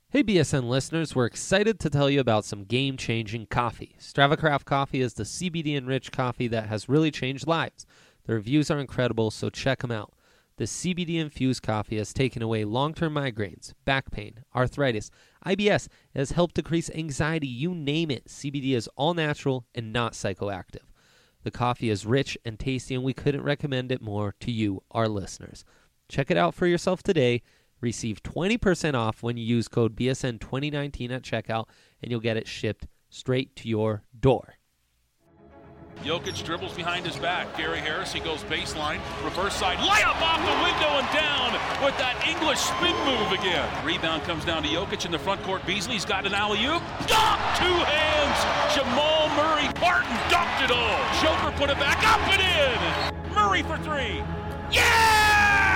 Hey BSN listeners, we're excited to tell you about some game-changing coffee. Strava Craft Coffee is the CBD-enriched coffee that has really changed lives. The reviews are incredible, so check them out. The CBD-infused coffee has taken away long-term migraines, back pain, arthritis, IBS. It has helped decrease anxiety, you name it. CBD is all natural and not psychoactive. The coffee is rich and tasty, and we couldn't recommend it more to you, our listeners. Check it out for yourself today. Receive 20% off when you use code BSN2019 at checkout, and you'll get it shipped straight to your door. Jokic dribbles behind his back. Gary Harris, he goes baseline, reverse side, layup off the window and down with that English spin move again. Rebound comes down to Jokic in the front court. Beasley's got an alley-oop. Dunk! Two hands! Jamal Murray. Barton dunked it all. Joker put it back up and in. Murray for three. Yeah!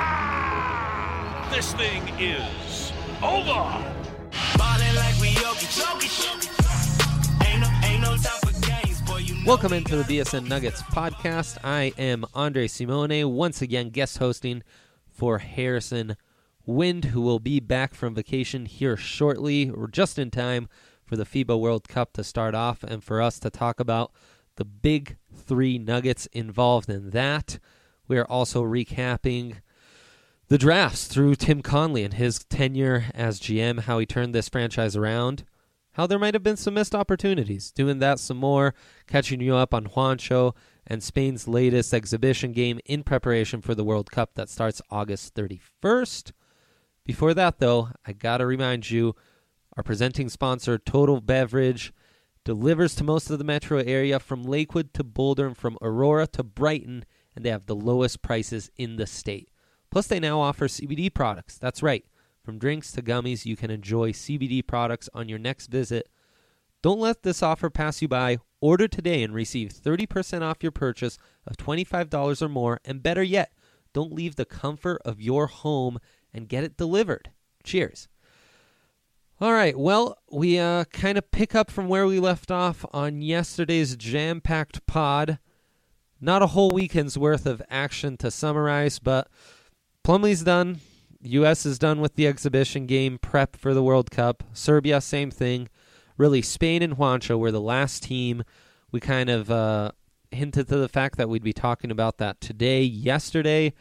This thing is over. Ballin' like we Jokic. Ain't no time for games, boy. Welcome into the BSN Nuggets podcast. I am Andre Simone, once again guest hosting for Harrison Wind, who will be back from vacation here shortly, or just in time for the FIBA World Cup to start off, and for us to talk about the big three Nuggets involved in that. We are also recapping the drafts through Tim Connelly and his tenure as GM, how he turned this franchise around, how there might have been some missed opportunities. Doing that some more, catching you up on Juancho and Spain's latest exhibition game in preparation for the World Cup that starts August 31st. Before that, though, I got to remind you, our presenting sponsor, Total Beverage, delivers to most of the metro area from Lakewood to Boulder and from Aurora to Brighton, and they have the lowest prices in the state. Plus, they now offer CBD products. That's right. From drinks to gummies, you can enjoy CBD products on your next visit. Don't let this offer pass you by. Order today and receive 30% off your purchase of $25 or more. And better yet, don't leave the comfort of your home and get it delivered. Cheers. All right, well, we kind of pick up from where we left off on yesterday's jam-packed pod. Not a whole weekend's worth of action to summarize, but Plumlee's done. U.S. is done with the exhibition game prep for the World Cup. Serbia, same thing. Really, Spain and Juancho were the last team. We kind of hinted to the fact that we'd be talking about that yesterday.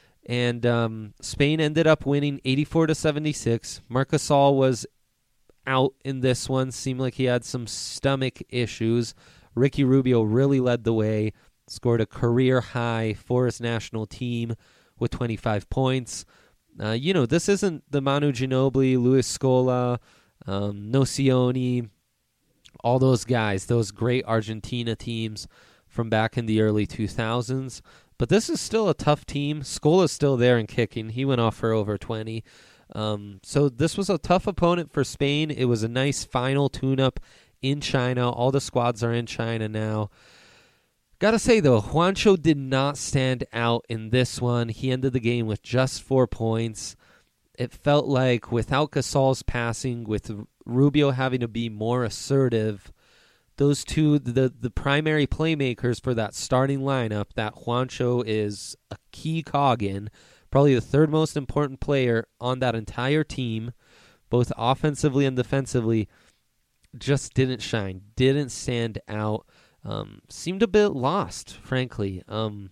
And Spain ended up winning 84-76. Marc Gasol was out in this one. Seemed like he had some stomach issues. Ricky Rubio really led the way. Scored a career high for his national team with 25 points. This isn't the Manu Ginobili, Luis Scola, Nocioni, all those guys, those great Argentina teams from back in the early 2000s. But this is still a tough team. Scola's still there and kicking. He went off for over 20. So this was a tough opponent for Spain. It was a nice final tune-up in China. All the squads are in China now. Gotta say, though, Juancho did not stand out in this one. He ended the game with just 4 points. It felt like without Gasol's passing, with Rubio having to be more assertive, those two, the primary playmakers for that starting lineup, that Juancho is a key cog in, probably the third most important player on that entire team, both offensively and defensively, just didn't shine, didn't stand out. Seemed a bit lost, frankly. And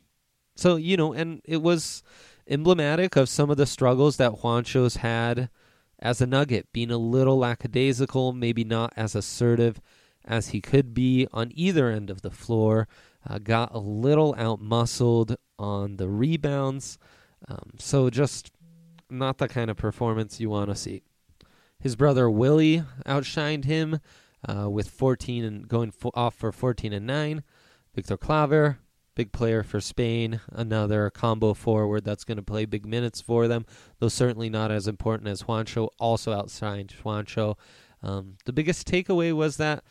it was emblematic of some of the struggles that Juancho's had as a Nugget, being a little lackadaisical, maybe not as assertive as he could be on either end of the floor. Got a little out-muscled on the rebounds. So just not the kind of performance you want to see. His brother Willie outshined him. With 14 and going off for 14 and 9. Victor Claver, big player for Spain, another combo forward that's going to play big minutes for them, though certainly not as important as Juancho, also outshined Juancho. The biggest takeaway was that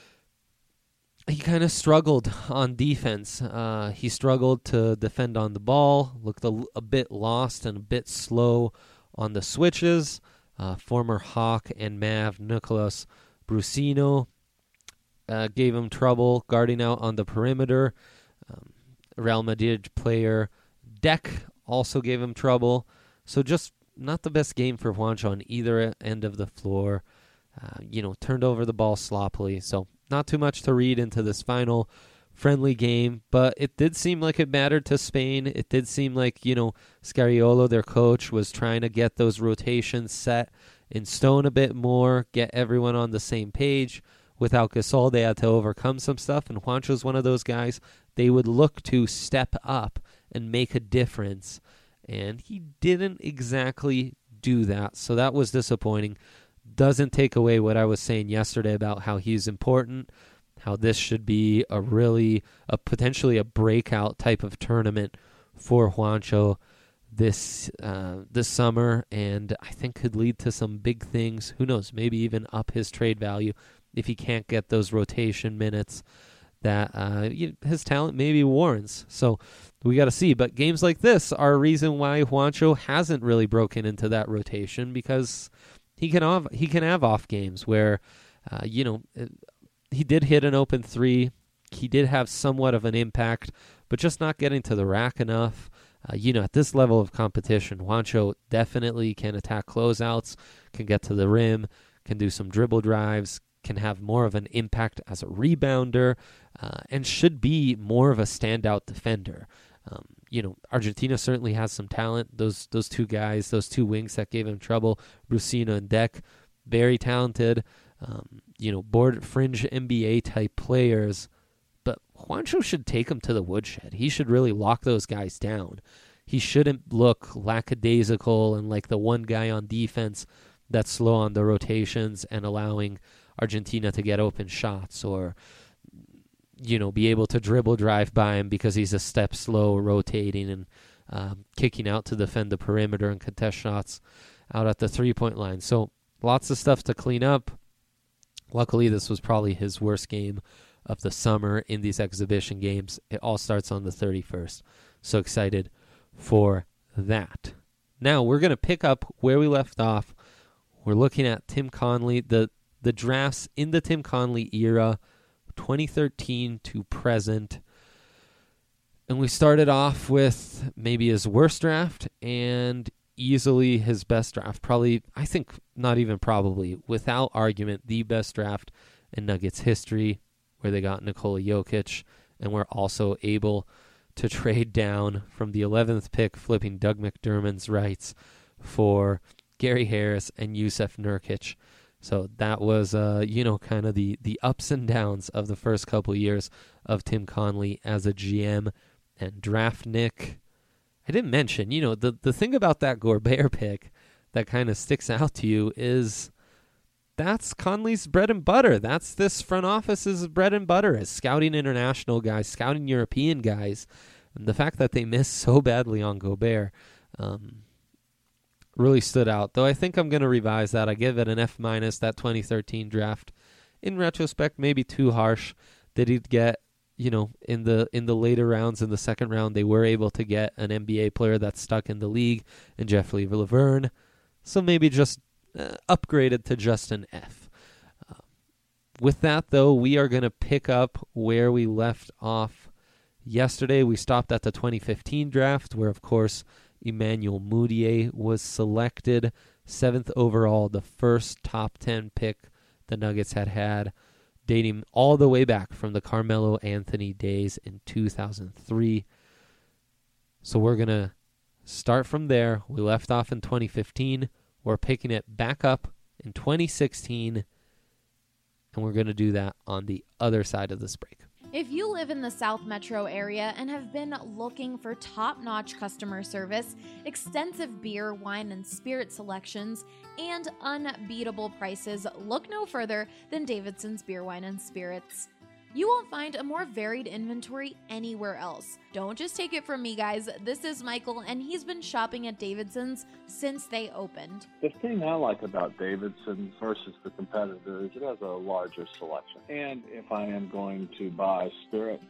he kind of struggled on defense. He struggled to defend on the ball, looked a bit lost and a bit slow on the switches. Former Hawk and Mav Nicolas Brusino gave him trouble guarding out on the perimeter. Real Madrid player Deck also gave him trouble. So just not the best game for Juancho on either end of the floor. Turned over the ball sloppily. So not too much to read into this final friendly game, but it did seem like it mattered to Spain. It did seem like, Scariolo, their coach, was trying to get those rotations set in stone a bit more, get everyone on the same page. Without Gasol, they had to overcome some stuff, and Juancho's one of those guys they would look to step up and make a difference, and he didn't exactly do that, so that was disappointing. Doesn't take away what I was saying yesterday about how he's important, how this should be potentially a breakout type of tournament for Juancho this summer, and I think could lead to some big things. Who knows, maybe even up his trade value if he can't get those rotation minutes that his talent maybe warrants. So we got to see. But games like this are a reason why Juancho hasn't really broken into that rotation, because he can have off games where, he did hit an open three. He did have somewhat of an impact, but just not getting to the rack enough. At this level of competition, Juancho definitely can attack closeouts, can get to the rim, can do some dribble drives, can have more of an impact as a rebounder, and should be more of a standout defender. Argentina certainly has some talent. Those two guys, those two wings that gave him trouble, Brusino and Deck, very talented, board fringe NBA type players. But Juancho should take them to the woodshed. He should really lock those guys down. He shouldn't look lackadaisical and like the one guy on defense that's slow on the rotations and allowing Argentina to get open shots, or be able to dribble drive by him because he's a step slow rotating and kicking out to defend the perimeter and contest shots out at the 3-point line. So lots of stuff to clean up. Luckily, this was probably his worst game of the summer in these exhibition games. It all starts on the 31st. So excited for that. Now we're going to pick up where we left off. We're looking at Tim Connelly, the drafts in the Tim Connelly era, 2013 to present. And we started off with maybe his worst draft and easily his best draft. Probably, I think, not even probably, without argument, the best draft in Nuggets history, where they got Nikola Jokic and were also able to trade down from the 11th pick, flipping Doug McDermott's rights for Gary Harris and Jusuf Nurkic. So that was, kind of the ups and downs of the first couple years of Tim Connelly as a GM and draft Nick. I didn't mention, the thing about that Gobert pick that kind of sticks out to you is that's Connelly's bread and butter. That's this front office's bread and butter, as scouting international guys, scouting European guys. And the fact that they missed so badly on Gobert really stood out. Though I think I'm going to revise that. I give it an F-, that 2013 draft. In retrospect, maybe too harsh. Did he get, in the later rounds, in the second round, they were able to get an NBA player that's stuck in the league, and Jeff Laverne. So maybe just upgraded to just an F. With that, though, we are going to pick up where we left off yesterday. We stopped at the 2015 draft, where, of course, Emmanuel Mudiay was selected 7th overall, the first top 10 pick the Nuggets had, dating all the way back from the Carmelo Anthony days in 2003. So we're going to start from there. We left off in 2015. We're picking it back up in 2016, and we're going to do that on the other side of this break. If you live in the South Metro area and have been looking for top-notch customer service, extensive beer, wine, and spirit selections, and unbeatable prices, look no further than Davidson's Beer, Wine, and Spirits. You won't find a more varied inventory anywhere else. Don't just take it from me, guys. This is Michael, and he's been shopping at Davidson's since they opened. The thing I like about Davidson's versus the competitor is it has a larger selection. And if I am going to buy spirit,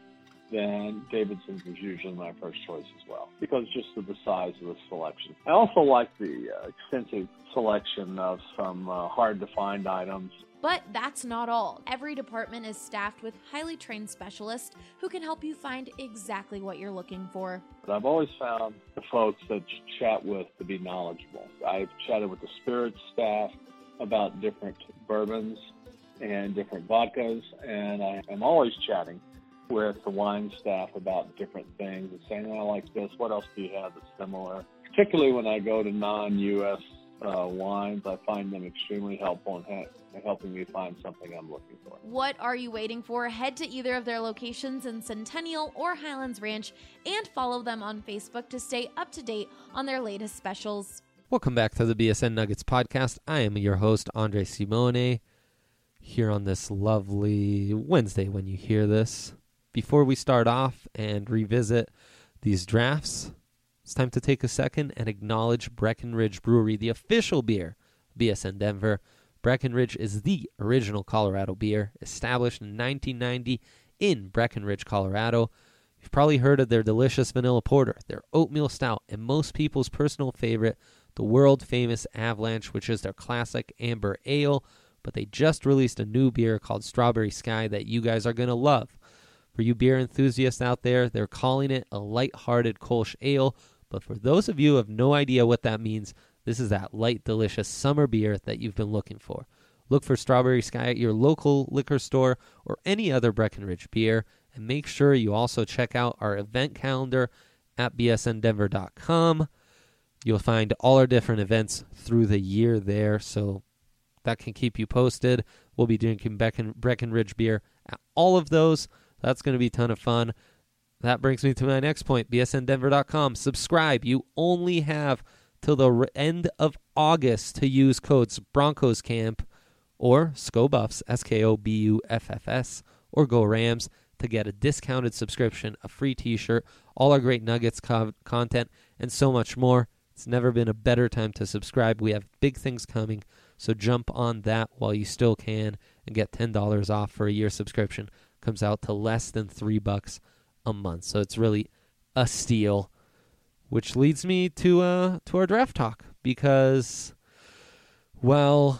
then Davidson's is usually my first choice as well, because just of the size of the selection. I also like the extensive selection of some hard-to-find items. But that's not all. Every department is staffed with highly trained specialists who can help you find exactly what you're looking for. But I've always found the folks that you chat with to be knowledgeable. I've chatted with the spirits staff about different bourbons and different vodkas, and I am always chatting with the wine staff about different things and saying, I like this, what else do you have that's similar? Particularly when I go to non-U.S. wines, I find them extremely helpful in helping me find something I'm looking for. What are you waiting for? Head to either of their locations in Centennial or Highlands Ranch and follow them on Facebook to stay up to date on their latest specials. Welcome back to the BSN Nuggets podcast. I am your host, Andre Simone, here on this lovely Wednesday when you hear this. Before we start off and revisit these drafts, it's time to take a second and acknowledge Breckenridge Brewery, the official beer of BSN Denver. Breckenridge is the original Colorado beer, established in 1990 in Breckenridge, Colorado. You've probably heard of their delicious vanilla porter, their oatmeal stout, and most people's personal favorite, the world-famous Avalanche, which is their classic amber ale. But they just released a new beer called Strawberry Sky that you guys are going to love. For you beer enthusiasts out there, they're calling it a light-hearted Kolsch ale. But for those of you who have no idea what that means, this is that light, delicious summer beer that you've been looking for. Look for Strawberry Sky at your local liquor store or any other Breckenridge beer. And make sure you also check out our event calendar at bsndenver.com. You'll find all our different events through the year there, so that can keep you posted. We'll be drinking Breckenridge beer at all of those. That's going to be a ton of fun. That brings me to my next point, bsndenver.com. Subscribe. You only have till the end of August to use codes Broncos Camp or ScoBuffs, SKOBUFFS, or Go Rams to get a discounted subscription, a free t-shirt, all our great Nuggets content, and so much more. It's never been a better time to subscribe. We have big things coming, so jump on that while you still can and get $10 off for a year subscription. Comes out to less than $3 a month, so it's really a steal. Which leads me to our draft talk, because while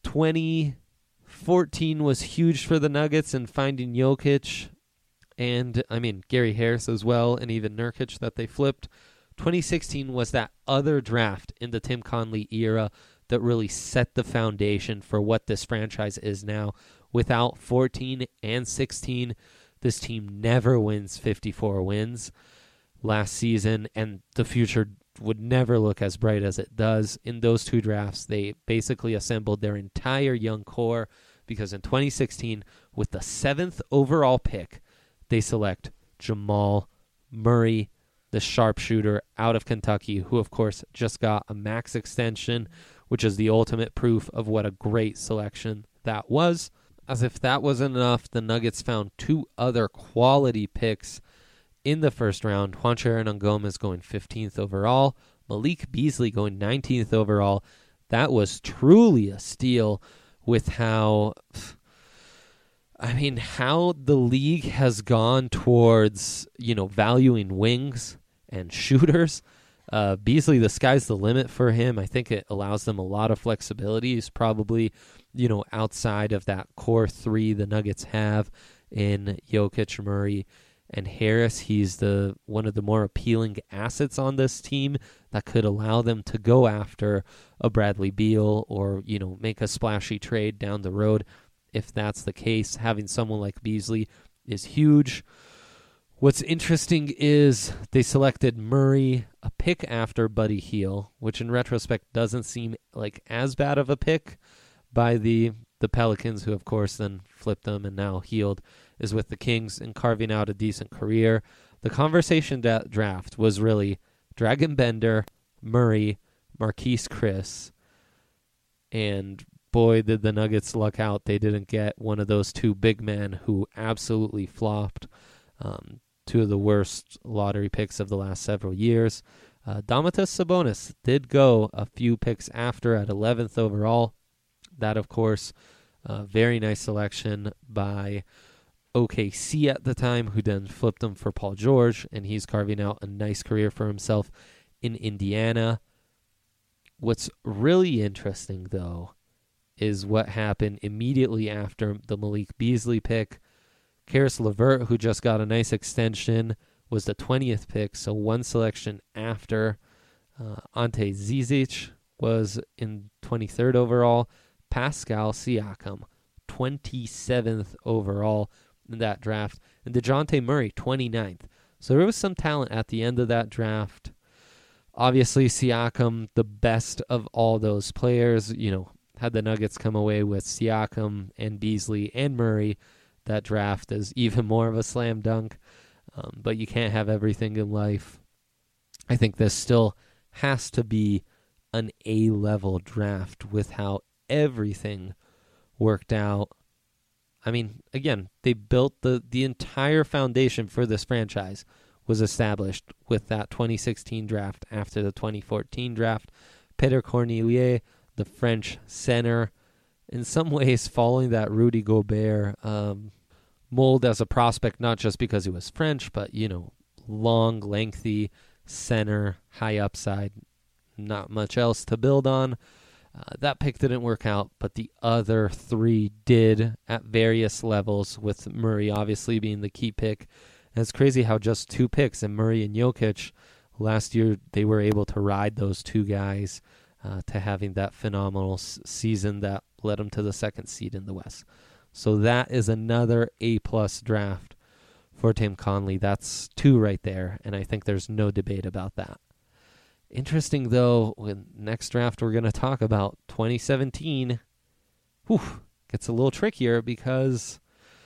2014 was huge for the Nuggets and finding Jokic, and Gary Harris as well, and even Nurkic that they flipped, 2016 was that other draft in the Tim Conley era that really set the foundation for what this franchise is now. Without 14 and 16, this team never wins 54 wins last season, and the future would never look as bright as it does. In those two drafts, they basically assembled their entire young core, because in 2016, with the 7th overall pick, they select Jamal Murray, the sharpshooter out of Kentucky, who, of course, just got a max extension, which is the ultimate proof of what a great selection that was. As if that wasn't enough, the Nuggets found two other quality picks in the first round. Juancho Hernangomez going 15th overall, Malik Beasley going 19th overall. That was truly a steal with how the league has gone towards, valuing wings and shooters. Beasley, the sky's the limit for him. I think it allows them a lot of flexibility. He's probably, outside of that core three the Nuggets have in Jokic, Murray, and Harris. He's one of the more appealing assets on this team that could allow them to go after a Bradley Beal or, make a splashy trade down the road. If that's the case, having someone like Beasley is huge. What's interesting is they selected Murray, a pick after Buddy Hield, which in retrospect doesn't seem like as bad of a pick by the Pelicans, who of course then flipped them, and now Hield is with the Kings and carving out a decent career. The conversation draft was really Dragan Bender, Murray, Marquise Chris, and boy, did the Nuggets luck out. They didn't get one of those two big men who absolutely flopped. Two of the worst lottery picks of the last several years. Domantas Sabonis did go a few picks after at 11th overall. That, of course, very nice selection by OKC at the time, who then flipped him for Paul George, and he's carving out a nice career for himself in Indiana. What's really interesting, though, is what happened immediately after the Malik Beasley pick. Karis LeVert, who just got a nice extension, was the 20th pick, so one selection after. Ante Zizic was in 23rd overall. Pascal Siakam, 27th overall in that draft. And DeJounte Murray, 29th. So there was some talent at the end of that draft. Obviously, Siakam, the best of all those players, had the Nuggets come away with Siakam and Beasley and Murray, that draft is even more of a slam dunk. But you can't have everything in life. I think this still has to be an A-level draft with how everything worked out. I mean, again, they built the entire foundation for this franchise was established with that 2016 draft after the 2014 draft. Peter Cornelier, the French center, in some ways following that Rudy Gobert mold as a prospect, not just because he was French, but, long, lengthy center, high upside, not much else to build on. That pick didn't work out, but the other three did at various levels, with Murray obviously being the key pick. And it's crazy how just 2 picks, and Murray and Jokic, last year they were able to ride those 2 guys to having that phenomenal season that led them to the 2nd seed in the West. So that is another A-plus draft for Tim Connelly. That's 2 right there, and I think there's no debate about that. Interesting, though, when next draft we're going to talk about 2017, gets a little trickier because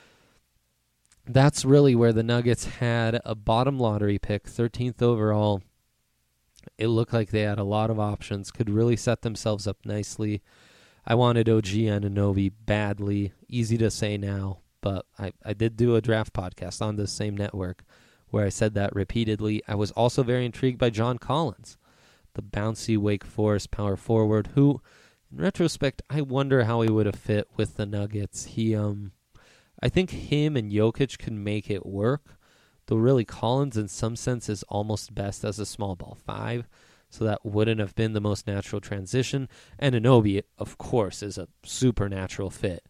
that's really where the Nuggets had a bottom lottery pick, 13th overall. It looked like they had a lot of options, could really set themselves up nicely. I wanted OG Anunoby badly, easy to say now, but I did do a draft podcast on this same network where I said that repeatedly. I was also very intrigued by John Collins, the bouncy Wake Forest power forward, who, in retrospect, I wonder how he would have fit with the Nuggets. I think him and Jokic can make it work, though really Collins in some sense is almost best as a small ball 5, so that wouldn't have been the most natural transition. And Anunoby, of course, is a supernatural fit.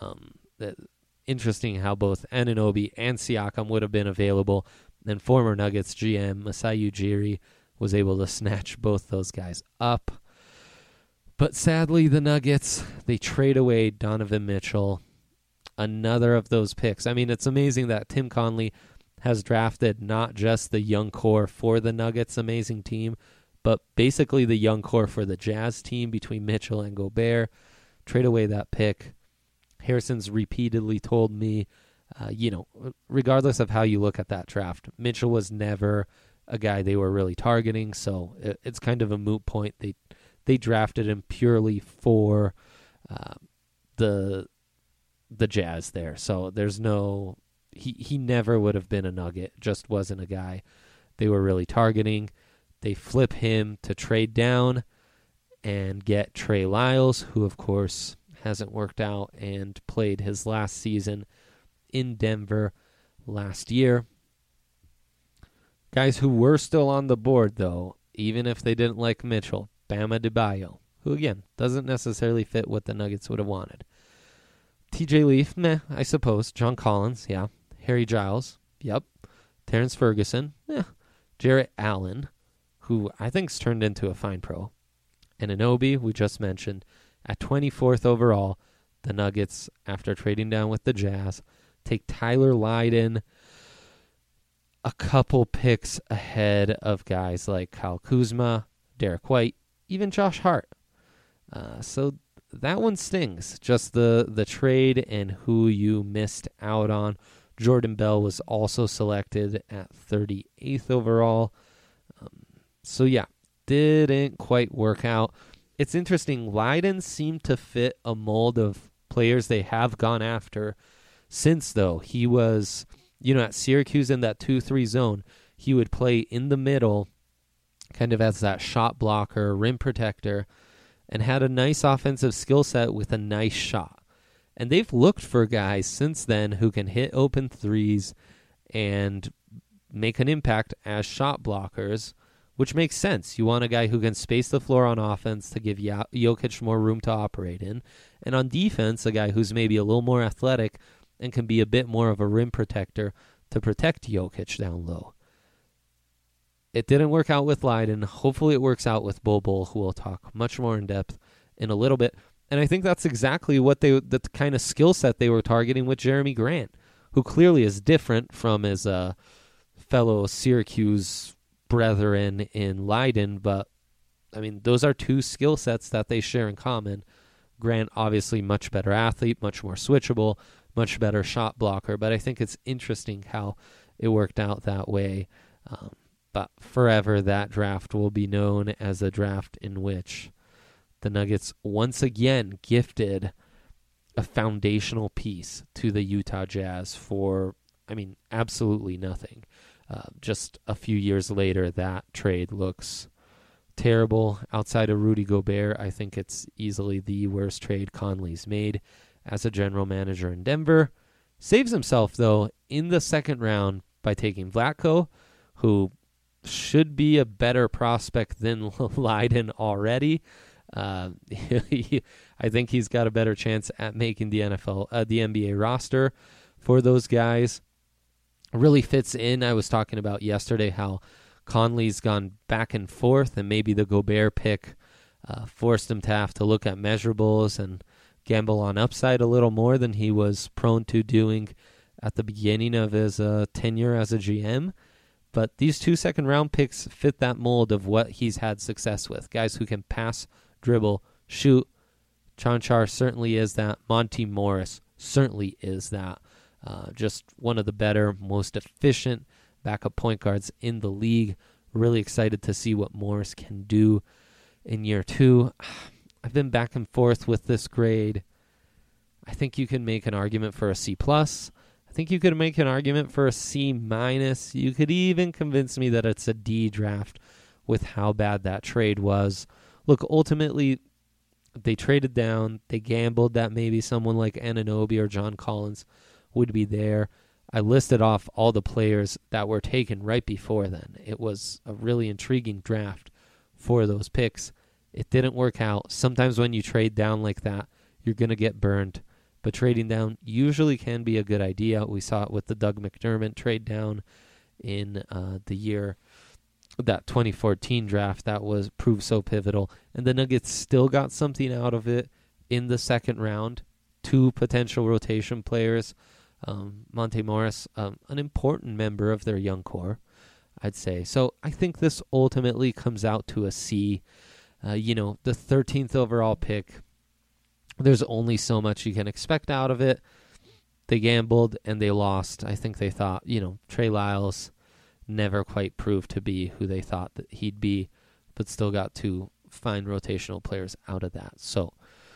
Interesting how both Anunoby and Siakam would have been available, and former Nuggets GM Masai Ujiri was able to snatch both those guys up. But sadly, the Nuggets, they trade away Donovan Mitchell, another of those picks. I mean, it's amazing that Tim Connelly has drafted not just the young core for the Nuggets' amazing team, but basically the young core for the Jazz team between Mitchell and Gobert. Trade away that pick. Harrison's repeatedly told me, regardless of how you look at that draft, Mitchell was never a guy they were really targeting, so it's kind of a moot point. They drafted him purely for the Jazz there, so there's no he never would have been a Nugget, just wasn't a guy they were really targeting. They flip him to trade down and get Trey Lyles, who of course hasn't worked out and played his last season in Denver last year. Guys who were still on the board, though, even if they didn't like Mitchell, Bam Adebayo, who, again, doesn't necessarily fit what the Nuggets would have wanted. TJ Leaf, meh, I suppose. John Collins, yeah. Harry Giles, yep. Terrence Ferguson, Jarrett Allen, who I think's turned into a fine pro. And Anunoby, we just mentioned. At 24th overall, the Nuggets, after trading down with the Jazz, take Tyler Lydon, a couple picks ahead of guys like Kyle Kuzma, Derek White, even Josh Hart. So that one stings, just the trade and who you missed out on. Jordan Bell was also selected at 38th overall. So yeah, didn't quite work out. It's interesting, Lydon seemed to fit a mold of players they have gone after since, though. He was, at Syracuse in that 2-3 zone, he would play in the middle, kind of as that shot blocker, rim protector, and had a nice offensive skill set with a nice shot. And they've looked for guys since then who can hit open threes and make an impact as shot blockers, which makes sense. You want a guy who can space the floor on offense to give Jokic more room to operate in. And on defense, a guy who's maybe a little more athletic and can be a bit more of a rim protector to protect Jokic down low. It didn't work out with Leiden. Hopefully it works out with Bol Bol, who we'll talk much more in depth in a little bit. And I think that's exactly what the kind of skill set they were targeting with Jeremy Grant, who clearly is different from his fellow Syracuse brethren in Leiden. But, I mean, those are two skill sets that they share in common. Grant, obviously, much better athlete, much more switchable, much better shot blocker. But I think it's interesting how it worked out that way. But forever, that draft will be known as a draft in which the Nuggets once again gifted a foundational piece to the Utah Jazz for, I mean, absolutely nothing. Just a few years later, that trade looks terrible. Outside of Rudy Gobert, I think it's easily the worst trade Conley's made as a general manager in Denver. Saves himself, though, in the second round by taking Vlatko, who should be a better prospect than Leiden already. I think he's got a better chance at making the NBA roster for those guys. Really fits in. I was talking about yesterday how Conley's gone back and forth, and maybe the Gobert pick forced him to have to look at measurables and gamble on upside a little more than he was prone to doing at the beginning of his tenure as a GM. But these 2 second-round picks fit that mold of what he's had success with. Guys who can pass, dribble, shoot. Chanchar certainly is that. Monty Morris certainly is that. Just one of the better, most efficient backup point guards in the league. Really excited to see what Morris can do in year 2. I've been back and forth with this grade. I think you can make an argument for a C+. I think you could make an argument for a C-. You could even convince me that it's a D draft with how bad that trade was. Look, ultimately, they traded down. They gambled that maybe someone like Anunoby or John Collins would be there. I listed off all the players that were taken right before then. It was a really intriguing draft for those picks. It didn't work out. Sometimes when you trade down like that, you're going to get burned. But trading down usually can be a good idea. We saw it with the Doug McDermott trade down in the year, that 2014 draft that proved so pivotal. And the Nuggets still got something out of it in the second round. 2 potential rotation players. Monte Morris, an important member of their young core, I'd say. So I think this ultimately comes out to a C. The 13th overall pick, there's only so much you can expect out of it. They gambled and they lost. I think they thought, Trey Lyles never quite proved to be who they thought that he'd be, but still got 2 fine rotational players out of that. So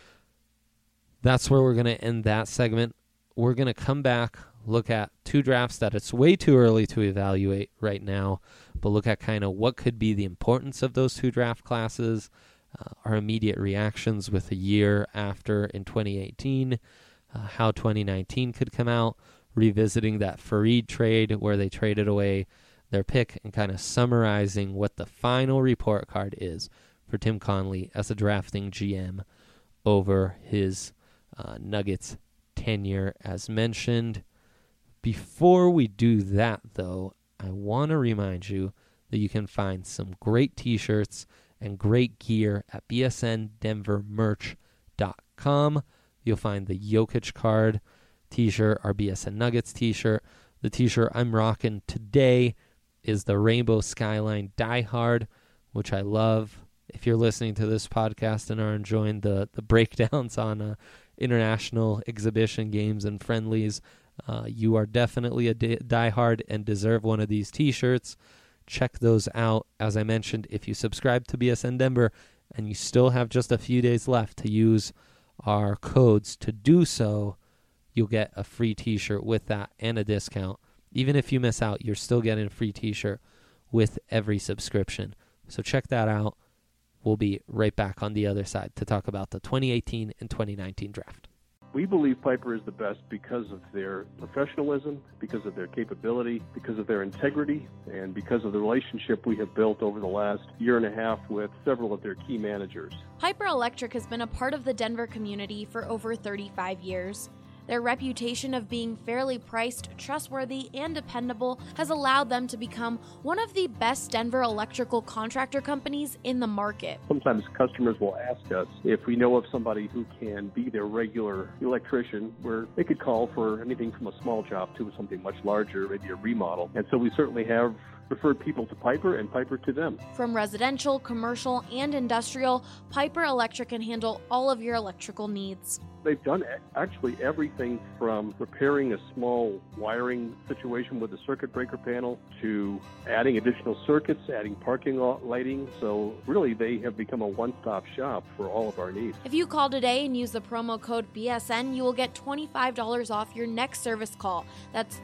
that's where we're going to end that segment. We're going to come back, look at 2 drafts that it's way too early to evaluate right now, but look at kind of what could be the importance of those 2 draft classes, our immediate reactions with a year after in 2018, how 2019 could come out, revisiting that Fareed trade where they traded away their pick, and kind of summarizing what the final report card is for Tim Connelly as a drafting GM over his Nuggets tenure as mentioned. Before we do that, though, I want to remind you that you can find some great t-shirts and great gear at bsndenvermerch.com. You'll find the Jokic card t-shirt, our BSN Nuggets t-shirt. The t-shirt I'm rocking today is the Rainbow Skyline Die Hard, which I love. If you're listening to this podcast and are enjoying the breakdowns on international exhibition games and friendlies, you are definitely a diehard and deserve one of these t-shirts. Check those out. As I mentioned, if you subscribe to BSN Denver and you still have just a few days left to use our codes to do so, you'll get a free t-shirt with that and a discount. Even if you miss out, you're still getting a free t-shirt with every subscription. So check that out. We'll be right back on the other side to talk about the 2018 and 2019 draft. We believe Piper is the best because of their professionalism, because of their capability, because of their integrity, and because of the relationship we have built over the last year and a half with several of their key managers. Piper Electric has been a part of the Denver community for over 35 years. Their reputation of being fairly priced, trustworthy, and dependable has allowed them to become one of the best Denver electrical contractor companies in the market. Sometimes customers will ask us if we know of somebody who can be their regular electrician, where they could call for anything from a small job to something much larger, maybe a remodel. And so we certainly have referred people to Piper and Piper to them. From residential, commercial, and industrial, Piper Electric can handle all of your electrical needs. They've done actually everything from repairing a small wiring situation with a circuit breaker panel to adding additional circuits, adding parking lot lighting. So really, they have become a one-stop shop for all of our needs. If you call today and use the promo code BSN, you will get $25 off your next service call. That's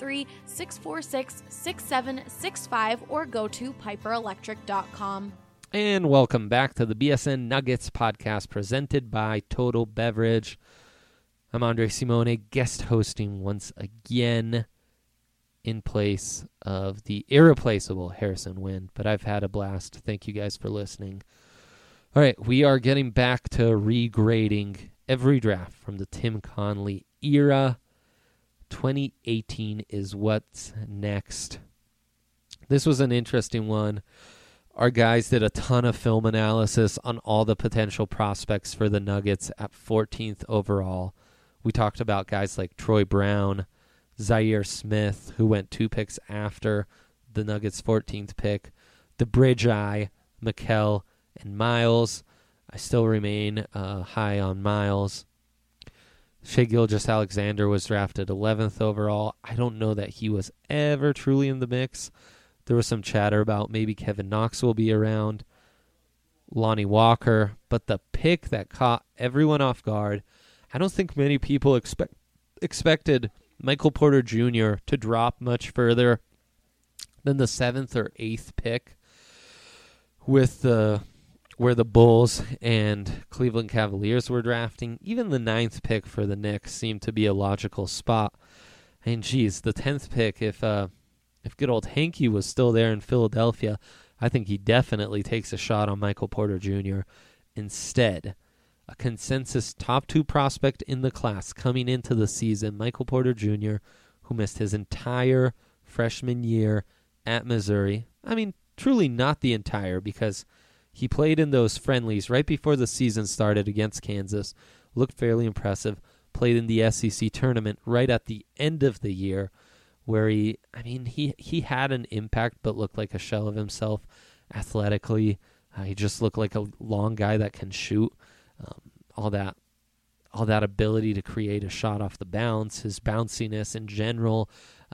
303-646-6765 or go to piperelectric.com. And welcome back to the BSN Nuggets podcast presented by Total Beverage. I'm Andre Simone, guest hosting once again in place of the irreplaceable Harrison Wind, but I've had a blast. Thank you guys for listening. All right, we are getting back to regrading every draft from the Tim Connelly era. 2018 is what's next. This was an interesting one. Our guys did a ton of film analysis on all the potential prospects for the Nuggets at 14th overall. We talked about guys like Troy Brown, Zaire Smith, who went 2 picks after the Nuggets' 14th pick, the Bridge Eye, Mikal, and Miles. I still remain high on Miles. Shai Gilgeous-Alexander was drafted 11th overall. I don't know that he was ever truly in the mix. There was some chatter about maybe Kevin Knox will be around, Lonnie Walker, but the pick that caught everyone off guard, I don't think many people expected Michael Porter Jr. to drop much further than the 7th or 8th pick with where the Bulls and Cleveland Cavaliers were drafting. Even the 9th pick for the Knicks seemed to be a logical spot. And geez, the 10th pick, if good old Hanky was still there in Philadelphia, I think he definitely takes a shot on Michael Porter Jr. Instead, a consensus top 2 prospect in the class coming into the season, Michael Porter Jr., who missed his entire freshman year at Missouri. I mean, truly not the entire, because he played in those friendlies right before the season started against Kansas, looked fairly impressive, played in the SEC tournament right at the end of the year, where he had an impact but looked like a shell of himself athletically. He just looked like a long guy that can shoot. All that ability to create a shot off the bounce, his bounciness in general,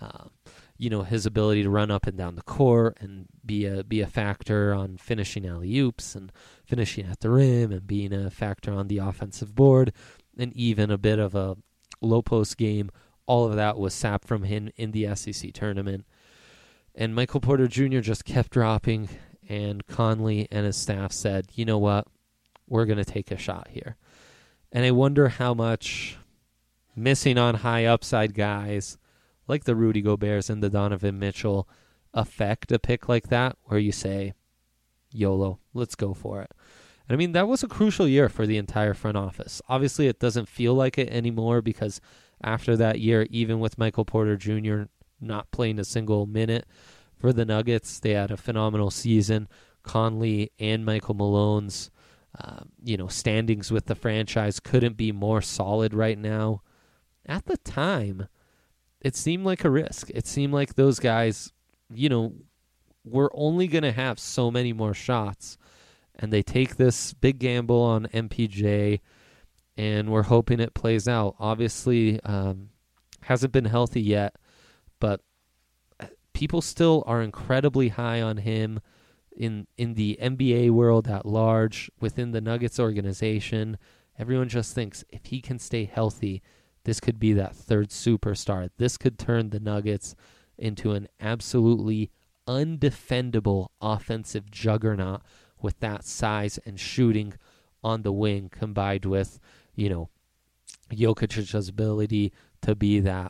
his ability to run up and down the court and be a factor on finishing alley-oops and finishing at the rim and being a factor on the offensive board, and even a bit of a low post game. All of that was sapped from him in the SEC tournament. And Michael Porter Jr. just kept dropping, and Conley and his staff said, you know what, we're going to take a shot here. And I wonder how much missing on high upside guys like the Rudy Goberts and the Donovan Mitchell affect a pick like that, where you say, YOLO, let's go for it. And I mean, that was a crucial year for the entire front office. Obviously, it doesn't feel like it anymore, because after that year, even with Michael Porter Jr. not playing a single minute for the Nuggets, they had a phenomenal season. Conley and Michael Malone's standings with the franchise couldn't be more solid right now. At the time, it seemed like a risk. It seemed like those guys, were only going to have so many more shots. And they take this big gamble on MPJ, and we're hoping it plays out. Obviously, hasn't been healthy yet, but people still are incredibly high on him in the NBA world at large, within the Nuggets organization. Everyone just thinks if he can stay healthy, this could be that third superstar. This could turn the Nuggets into an absolutely undefendable offensive juggernaut with that size and shooting on the wing, combined with, Jokic's ability to be that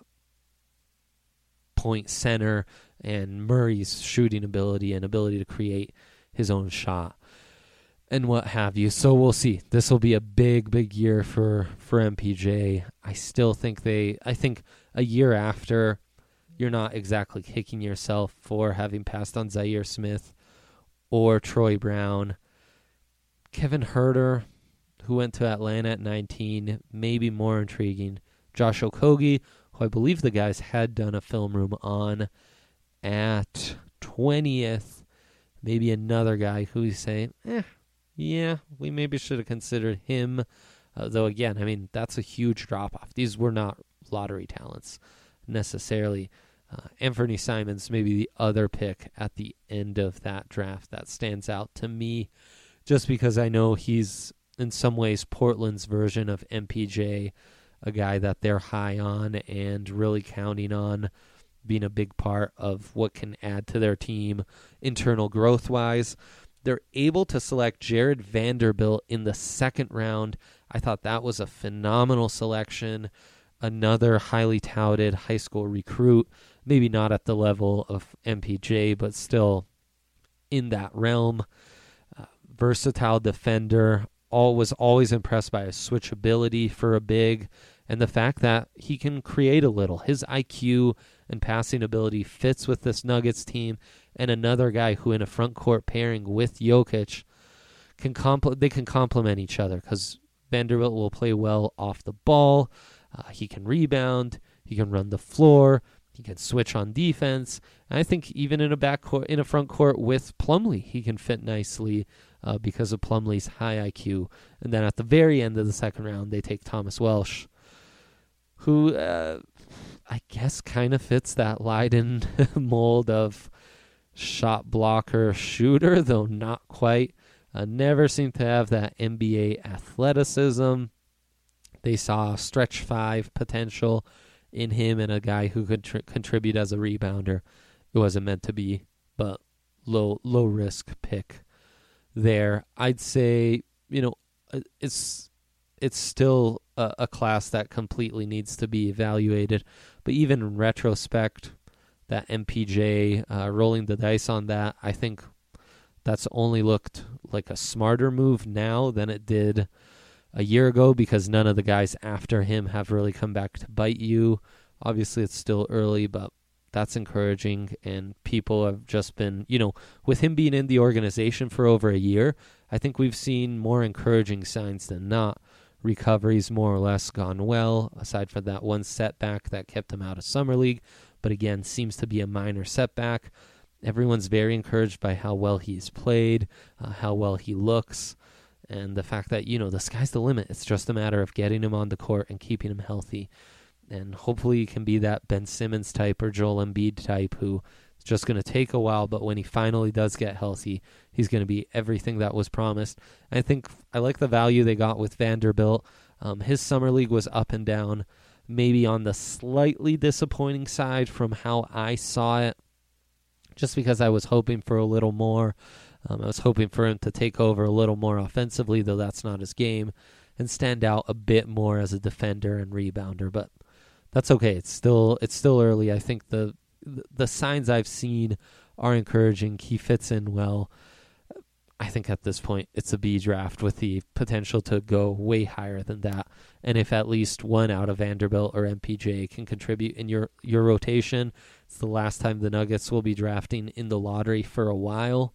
point center and Murray's shooting ability and ability to create his own shot and what have you. So we'll see. This will be a big year for MPJ. I still think I think a year after, you're not exactly kicking yourself for having passed on Zaire Smith or Troy Brown. Kevin Huerter, who went to Atlanta at 19, maybe more intriguing. Josh Okogie, who I believe the guys had done a film room on at 20th. Maybe another guy who you say, yeah, we maybe should have considered him. Though, again, I mean, that's a huge drop-off. These were not lottery talents necessarily. Anthony Simons, maybe the other pick at the end of that draft that stands out to me, just because I know he's in some ways Portland's version of MPJ, a guy that they're high on and really counting on being a big part of what can add to their team internal growth-wise. They're able to select Jared Vanderbilt in the second round. I thought that was a phenomenal selection. Another highly touted high school recruit, maybe not at the level of MPJ, but still in that realm. Versatile defender. Was always impressed by his switchability for a big, and the fact that he can create a little. His IQ and passing ability fits with this Nuggets team, and another guy who in a front court pairing with Jokic can complement each other, because Vanderbilt will play well off the ball. He can rebound. He can run the floor. He can switch on defense. And I think even in a front court with Plumlee, he can fit nicely because of Plumlee's high IQ. And then at the very end of the second round, they take Thomas Welsh, who I guess kind of fits that Leiden mold of shot blocker shooter, though not quite. Never seemed to have that NBA athleticism. They saw stretch five potential in him and a guy who could contribute as a rebounder. It wasn't meant to be, but low risk pick there. I'd say, it's still a class that completely needs to be evaluated. But even in retrospect, that MPJ rolling the dice on that, I think that's only looked like a smarter move now than it did a year ago, because none of the guys after him have really come back to bite you. Obviously, it's still early, but that's encouraging, and people have just been, with him being in the organization for over a year, I think we've seen more encouraging signs than not. Recovery's more or less gone well, aside from that one setback that kept him out of Summer League, but again, seems to be a minor setback. Everyone's very encouraged by how well he's played, how well he looks, and the fact that, the sky's the limit. It's just a matter of getting him on the court and keeping him healthy. And hopefully he can be that Ben Simmons type or Joel Embiid type who is just going to take a while, but when he finally does get healthy, he's going to be everything that was promised. I think I like the value they got with Vanderbilt. His Summer League was up and down, maybe on the slightly disappointing side from how I saw it, just because I was hoping for a little more. I was hoping for him to take over a little more offensively, though that's not his game, and stand out a bit more as a defender and rebounder. But that's okay. It's still early. I think the signs I've seen are encouraging. He fits in well. I think at this point it's a B draft with the potential to go way higher than that. And if at least one out of Vanderbilt or MPJ can contribute in your rotation, it's the last time the Nuggets will be drafting in the lottery for a while.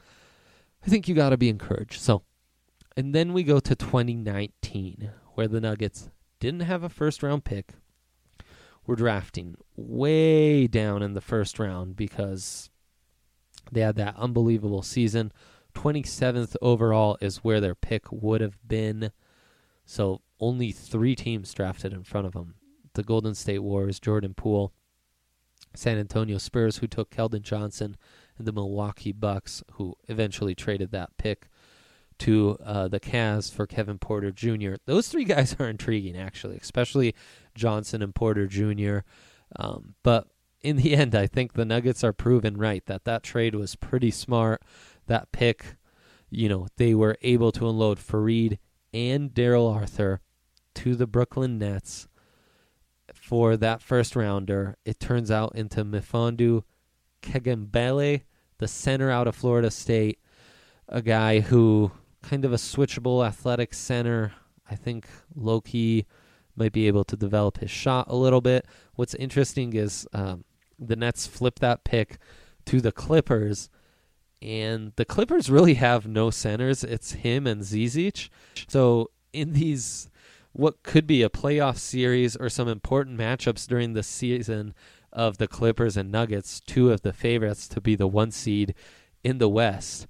I think you got to be encouraged. And then we go to 2019, where the Nuggets didn't have a first-round pick. We're drafting way down in the first round because they had that unbelievable season. 27th overall is where their pick would have been. So only 3 teams drafted in front of them. The Golden State Warriors, Jordan Poole, San Antonio Spurs, who took Keldon Johnson, and the Milwaukee Bucks, who eventually traded that pick to the Cavs for Kevin Porter Jr. Those 3 guys are intriguing, actually, especially Johnson and Porter Jr. But in the end, I think the Nuggets are proven right that trade was pretty smart. That pick, they were able to unload Fareed and Daryl Arthur to the Brooklyn Nets for that first rounder. It turns out into Mfiondu Kegambele, the center out of Florida State, a guy who kind of a switchable athletic center. I think low-key might be able to develop his shot a little bit. What's interesting is the Nets flipped that pick to the Clippers, and the Clippers really have no centers. It's him and Zizic. So in these, what could be a playoff series or some important matchups during the season of the Clippers and Nuggets, two of the favorites to be the 1 seed in the West,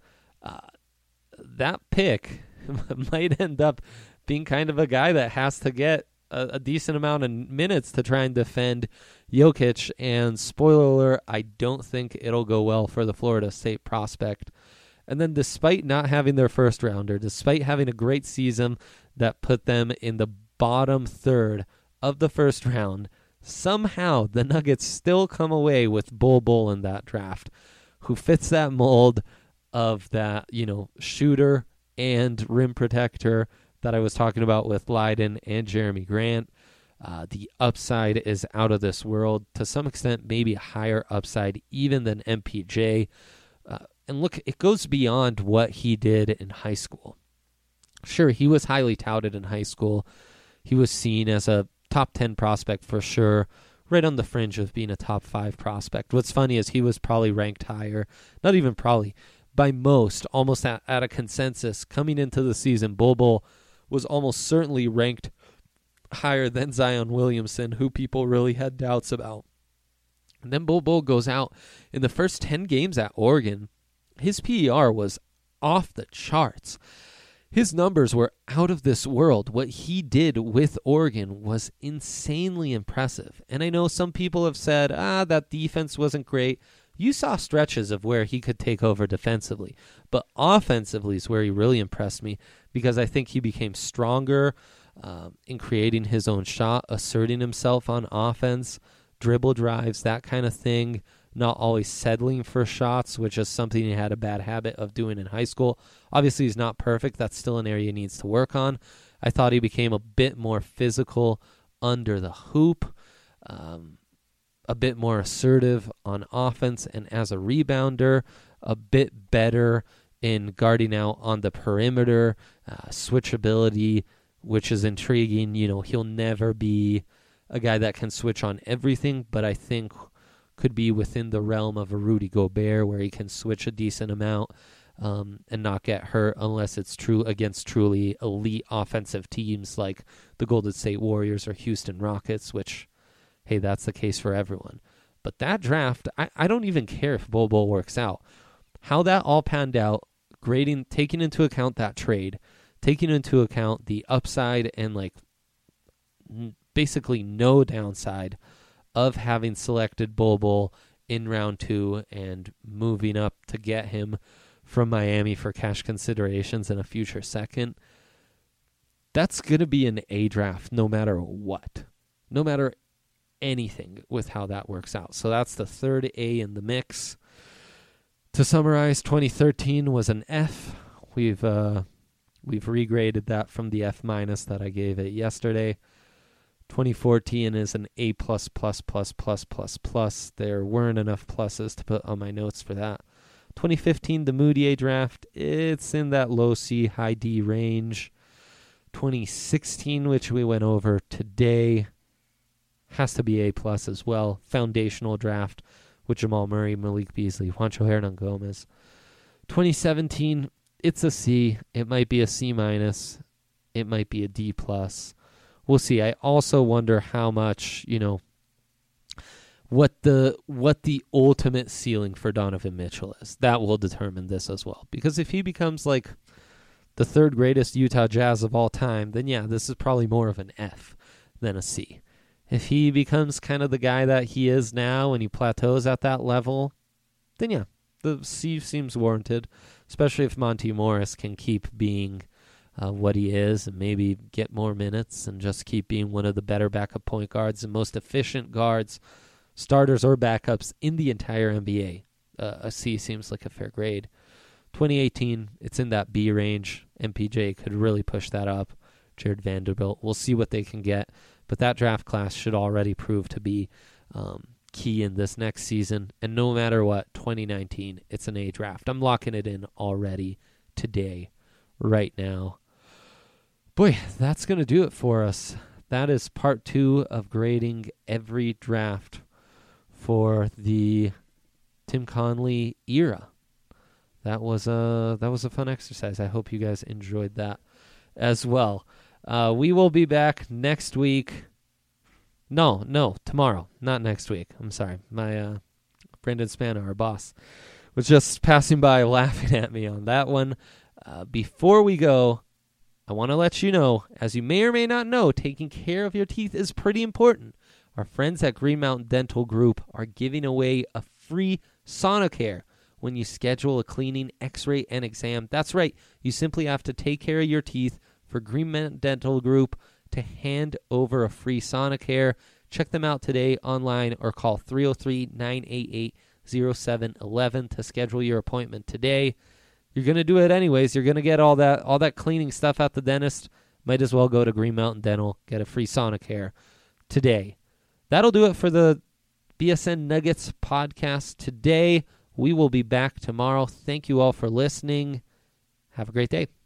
that pick might end up being kind of a guy that has to get a decent amount of minutes to try and defend Jokic. And spoiler alert, I don't think it'll go well for the Florida State prospect. And then despite not having their first rounder, despite having a great season that put them in the bottom third of the first round, somehow the Nuggets still come away with Bol Bol in that draft, who fits that mold of that, shooter and rim protector that I was talking about with Leiden and Jeremy Grant. The upside is out of this world. To some extent, maybe a higher upside even than MPJ. And look, it goes beyond what he did in high school. Sure, he was highly touted in high school. He was seen as a top 10 prospect for sure, right on the fringe of being a top 5 prospect. What's funny is he was probably ranked higher, not even probably, by most, almost at a consensus. Coming into the season, Bol Bol was almost certainly ranked higher than Zion Williamson, who people really had doubts about. And then Bol Bol goes out in the first 10 games at Oregon. His PER was off the charts. His numbers were out of this world. What he did with Oregon was insanely impressive. And I know some people have said, that defense wasn't great. You saw stretches of where he could take over defensively. But offensively is where he really impressed me, because I think he became stronger in creating his own shot, asserting himself on offense, dribble drives, that kind of thing, not always settling for shots, which is something he had a bad habit of doing in high school. Obviously, he's not perfect. That's still an area he needs to work on. I thought he became a bit more physical under the hoop, a bit more assertive on offense, and as a rebounder, a bit better in guarding out on the perimeter, switchability, which is intriguing. He'll never be a guy that can switch on everything, but I think could be within the realm of a Rudy Gobert, where he can switch a decent amount and not get hurt unless it's true against truly elite offensive teams like the Golden State Warriors or Houston Rockets, which, hey, that's the case for everyone. But that draft, I don't even care if Bol Bol works out. How that all panned out, taking into account that trade, taking into account the upside and basically no downside of having selected Bol Bol in round 2 and moving up to get him from Miami for cash considerations in a future second, that's going to be an A draft no matter what. No matter anything with how that works out. So that's the third A in the mix. To summarize, 2013 was an F. We've regraded that from the F- that I gave it yesterday. 2014 is an A+++++++. There weren't enough pluses to put on my notes for that. 2015, the Moutier draft, it's in that low C, high D range. 2016, which we went over today, has to be A+ as well. Foundational draft with Jamal Murray, Malik Beasley, Juancho Hernan-Gomez. 2017, it's a C. It might be a C-. It might be a D+. We'll see. I also wonder how much, what the ultimate ceiling for Donovan Mitchell is. That will determine this as well. Because if he becomes like the third greatest Utah Jazz of all time, then yeah, this is probably more of an F than a C. If he becomes kind of the guy that he is now and he plateaus at that level, then yeah, the C seems warranted, especially if Monty Morris can keep being what he is and maybe get more minutes and just keep being one of the better backup point guards and most efficient guards, starters or backups in the entire NBA. A C seems like a fair grade. 2018, it's in that B range. MPJ could really push that up. Jared Vanderbilt. We'll see what they can get, but that draft class should already prove to be key in this next season. And no matter what, 2019, it's an A draft. I'm locking it in already today, right now. Boy, that's going to do it for us. That is part 2 of grading every draft for the Tim Conley era. That was a fun exercise. I hope you guys enjoyed that as well. We will be back next week. No, tomorrow, not next week. I'm sorry. My Brendan Spano, our boss, was just passing by laughing at me on that one. Before we go, I want to let you know, as you may or may not know, taking care of your teeth is pretty important. Our friends at Green Mountain Dental Group are giving away a free Sonicare when you schedule a cleaning, x-ray, and exam. That's right. You simply have to take care of your teeth for Green Mountain Dental Group to hand over a free Sonicare. Check them out today online or call 303-988-0711 to schedule your appointment today. You're going to do it anyways. You're going to get all that cleaning stuff at the dentist. Might as well go to Green Mountain Dental, get a free Sonicare today. That'll do it for the BSN Nuggets podcast today. We will be back tomorrow. Thank you all for listening. Have a great day.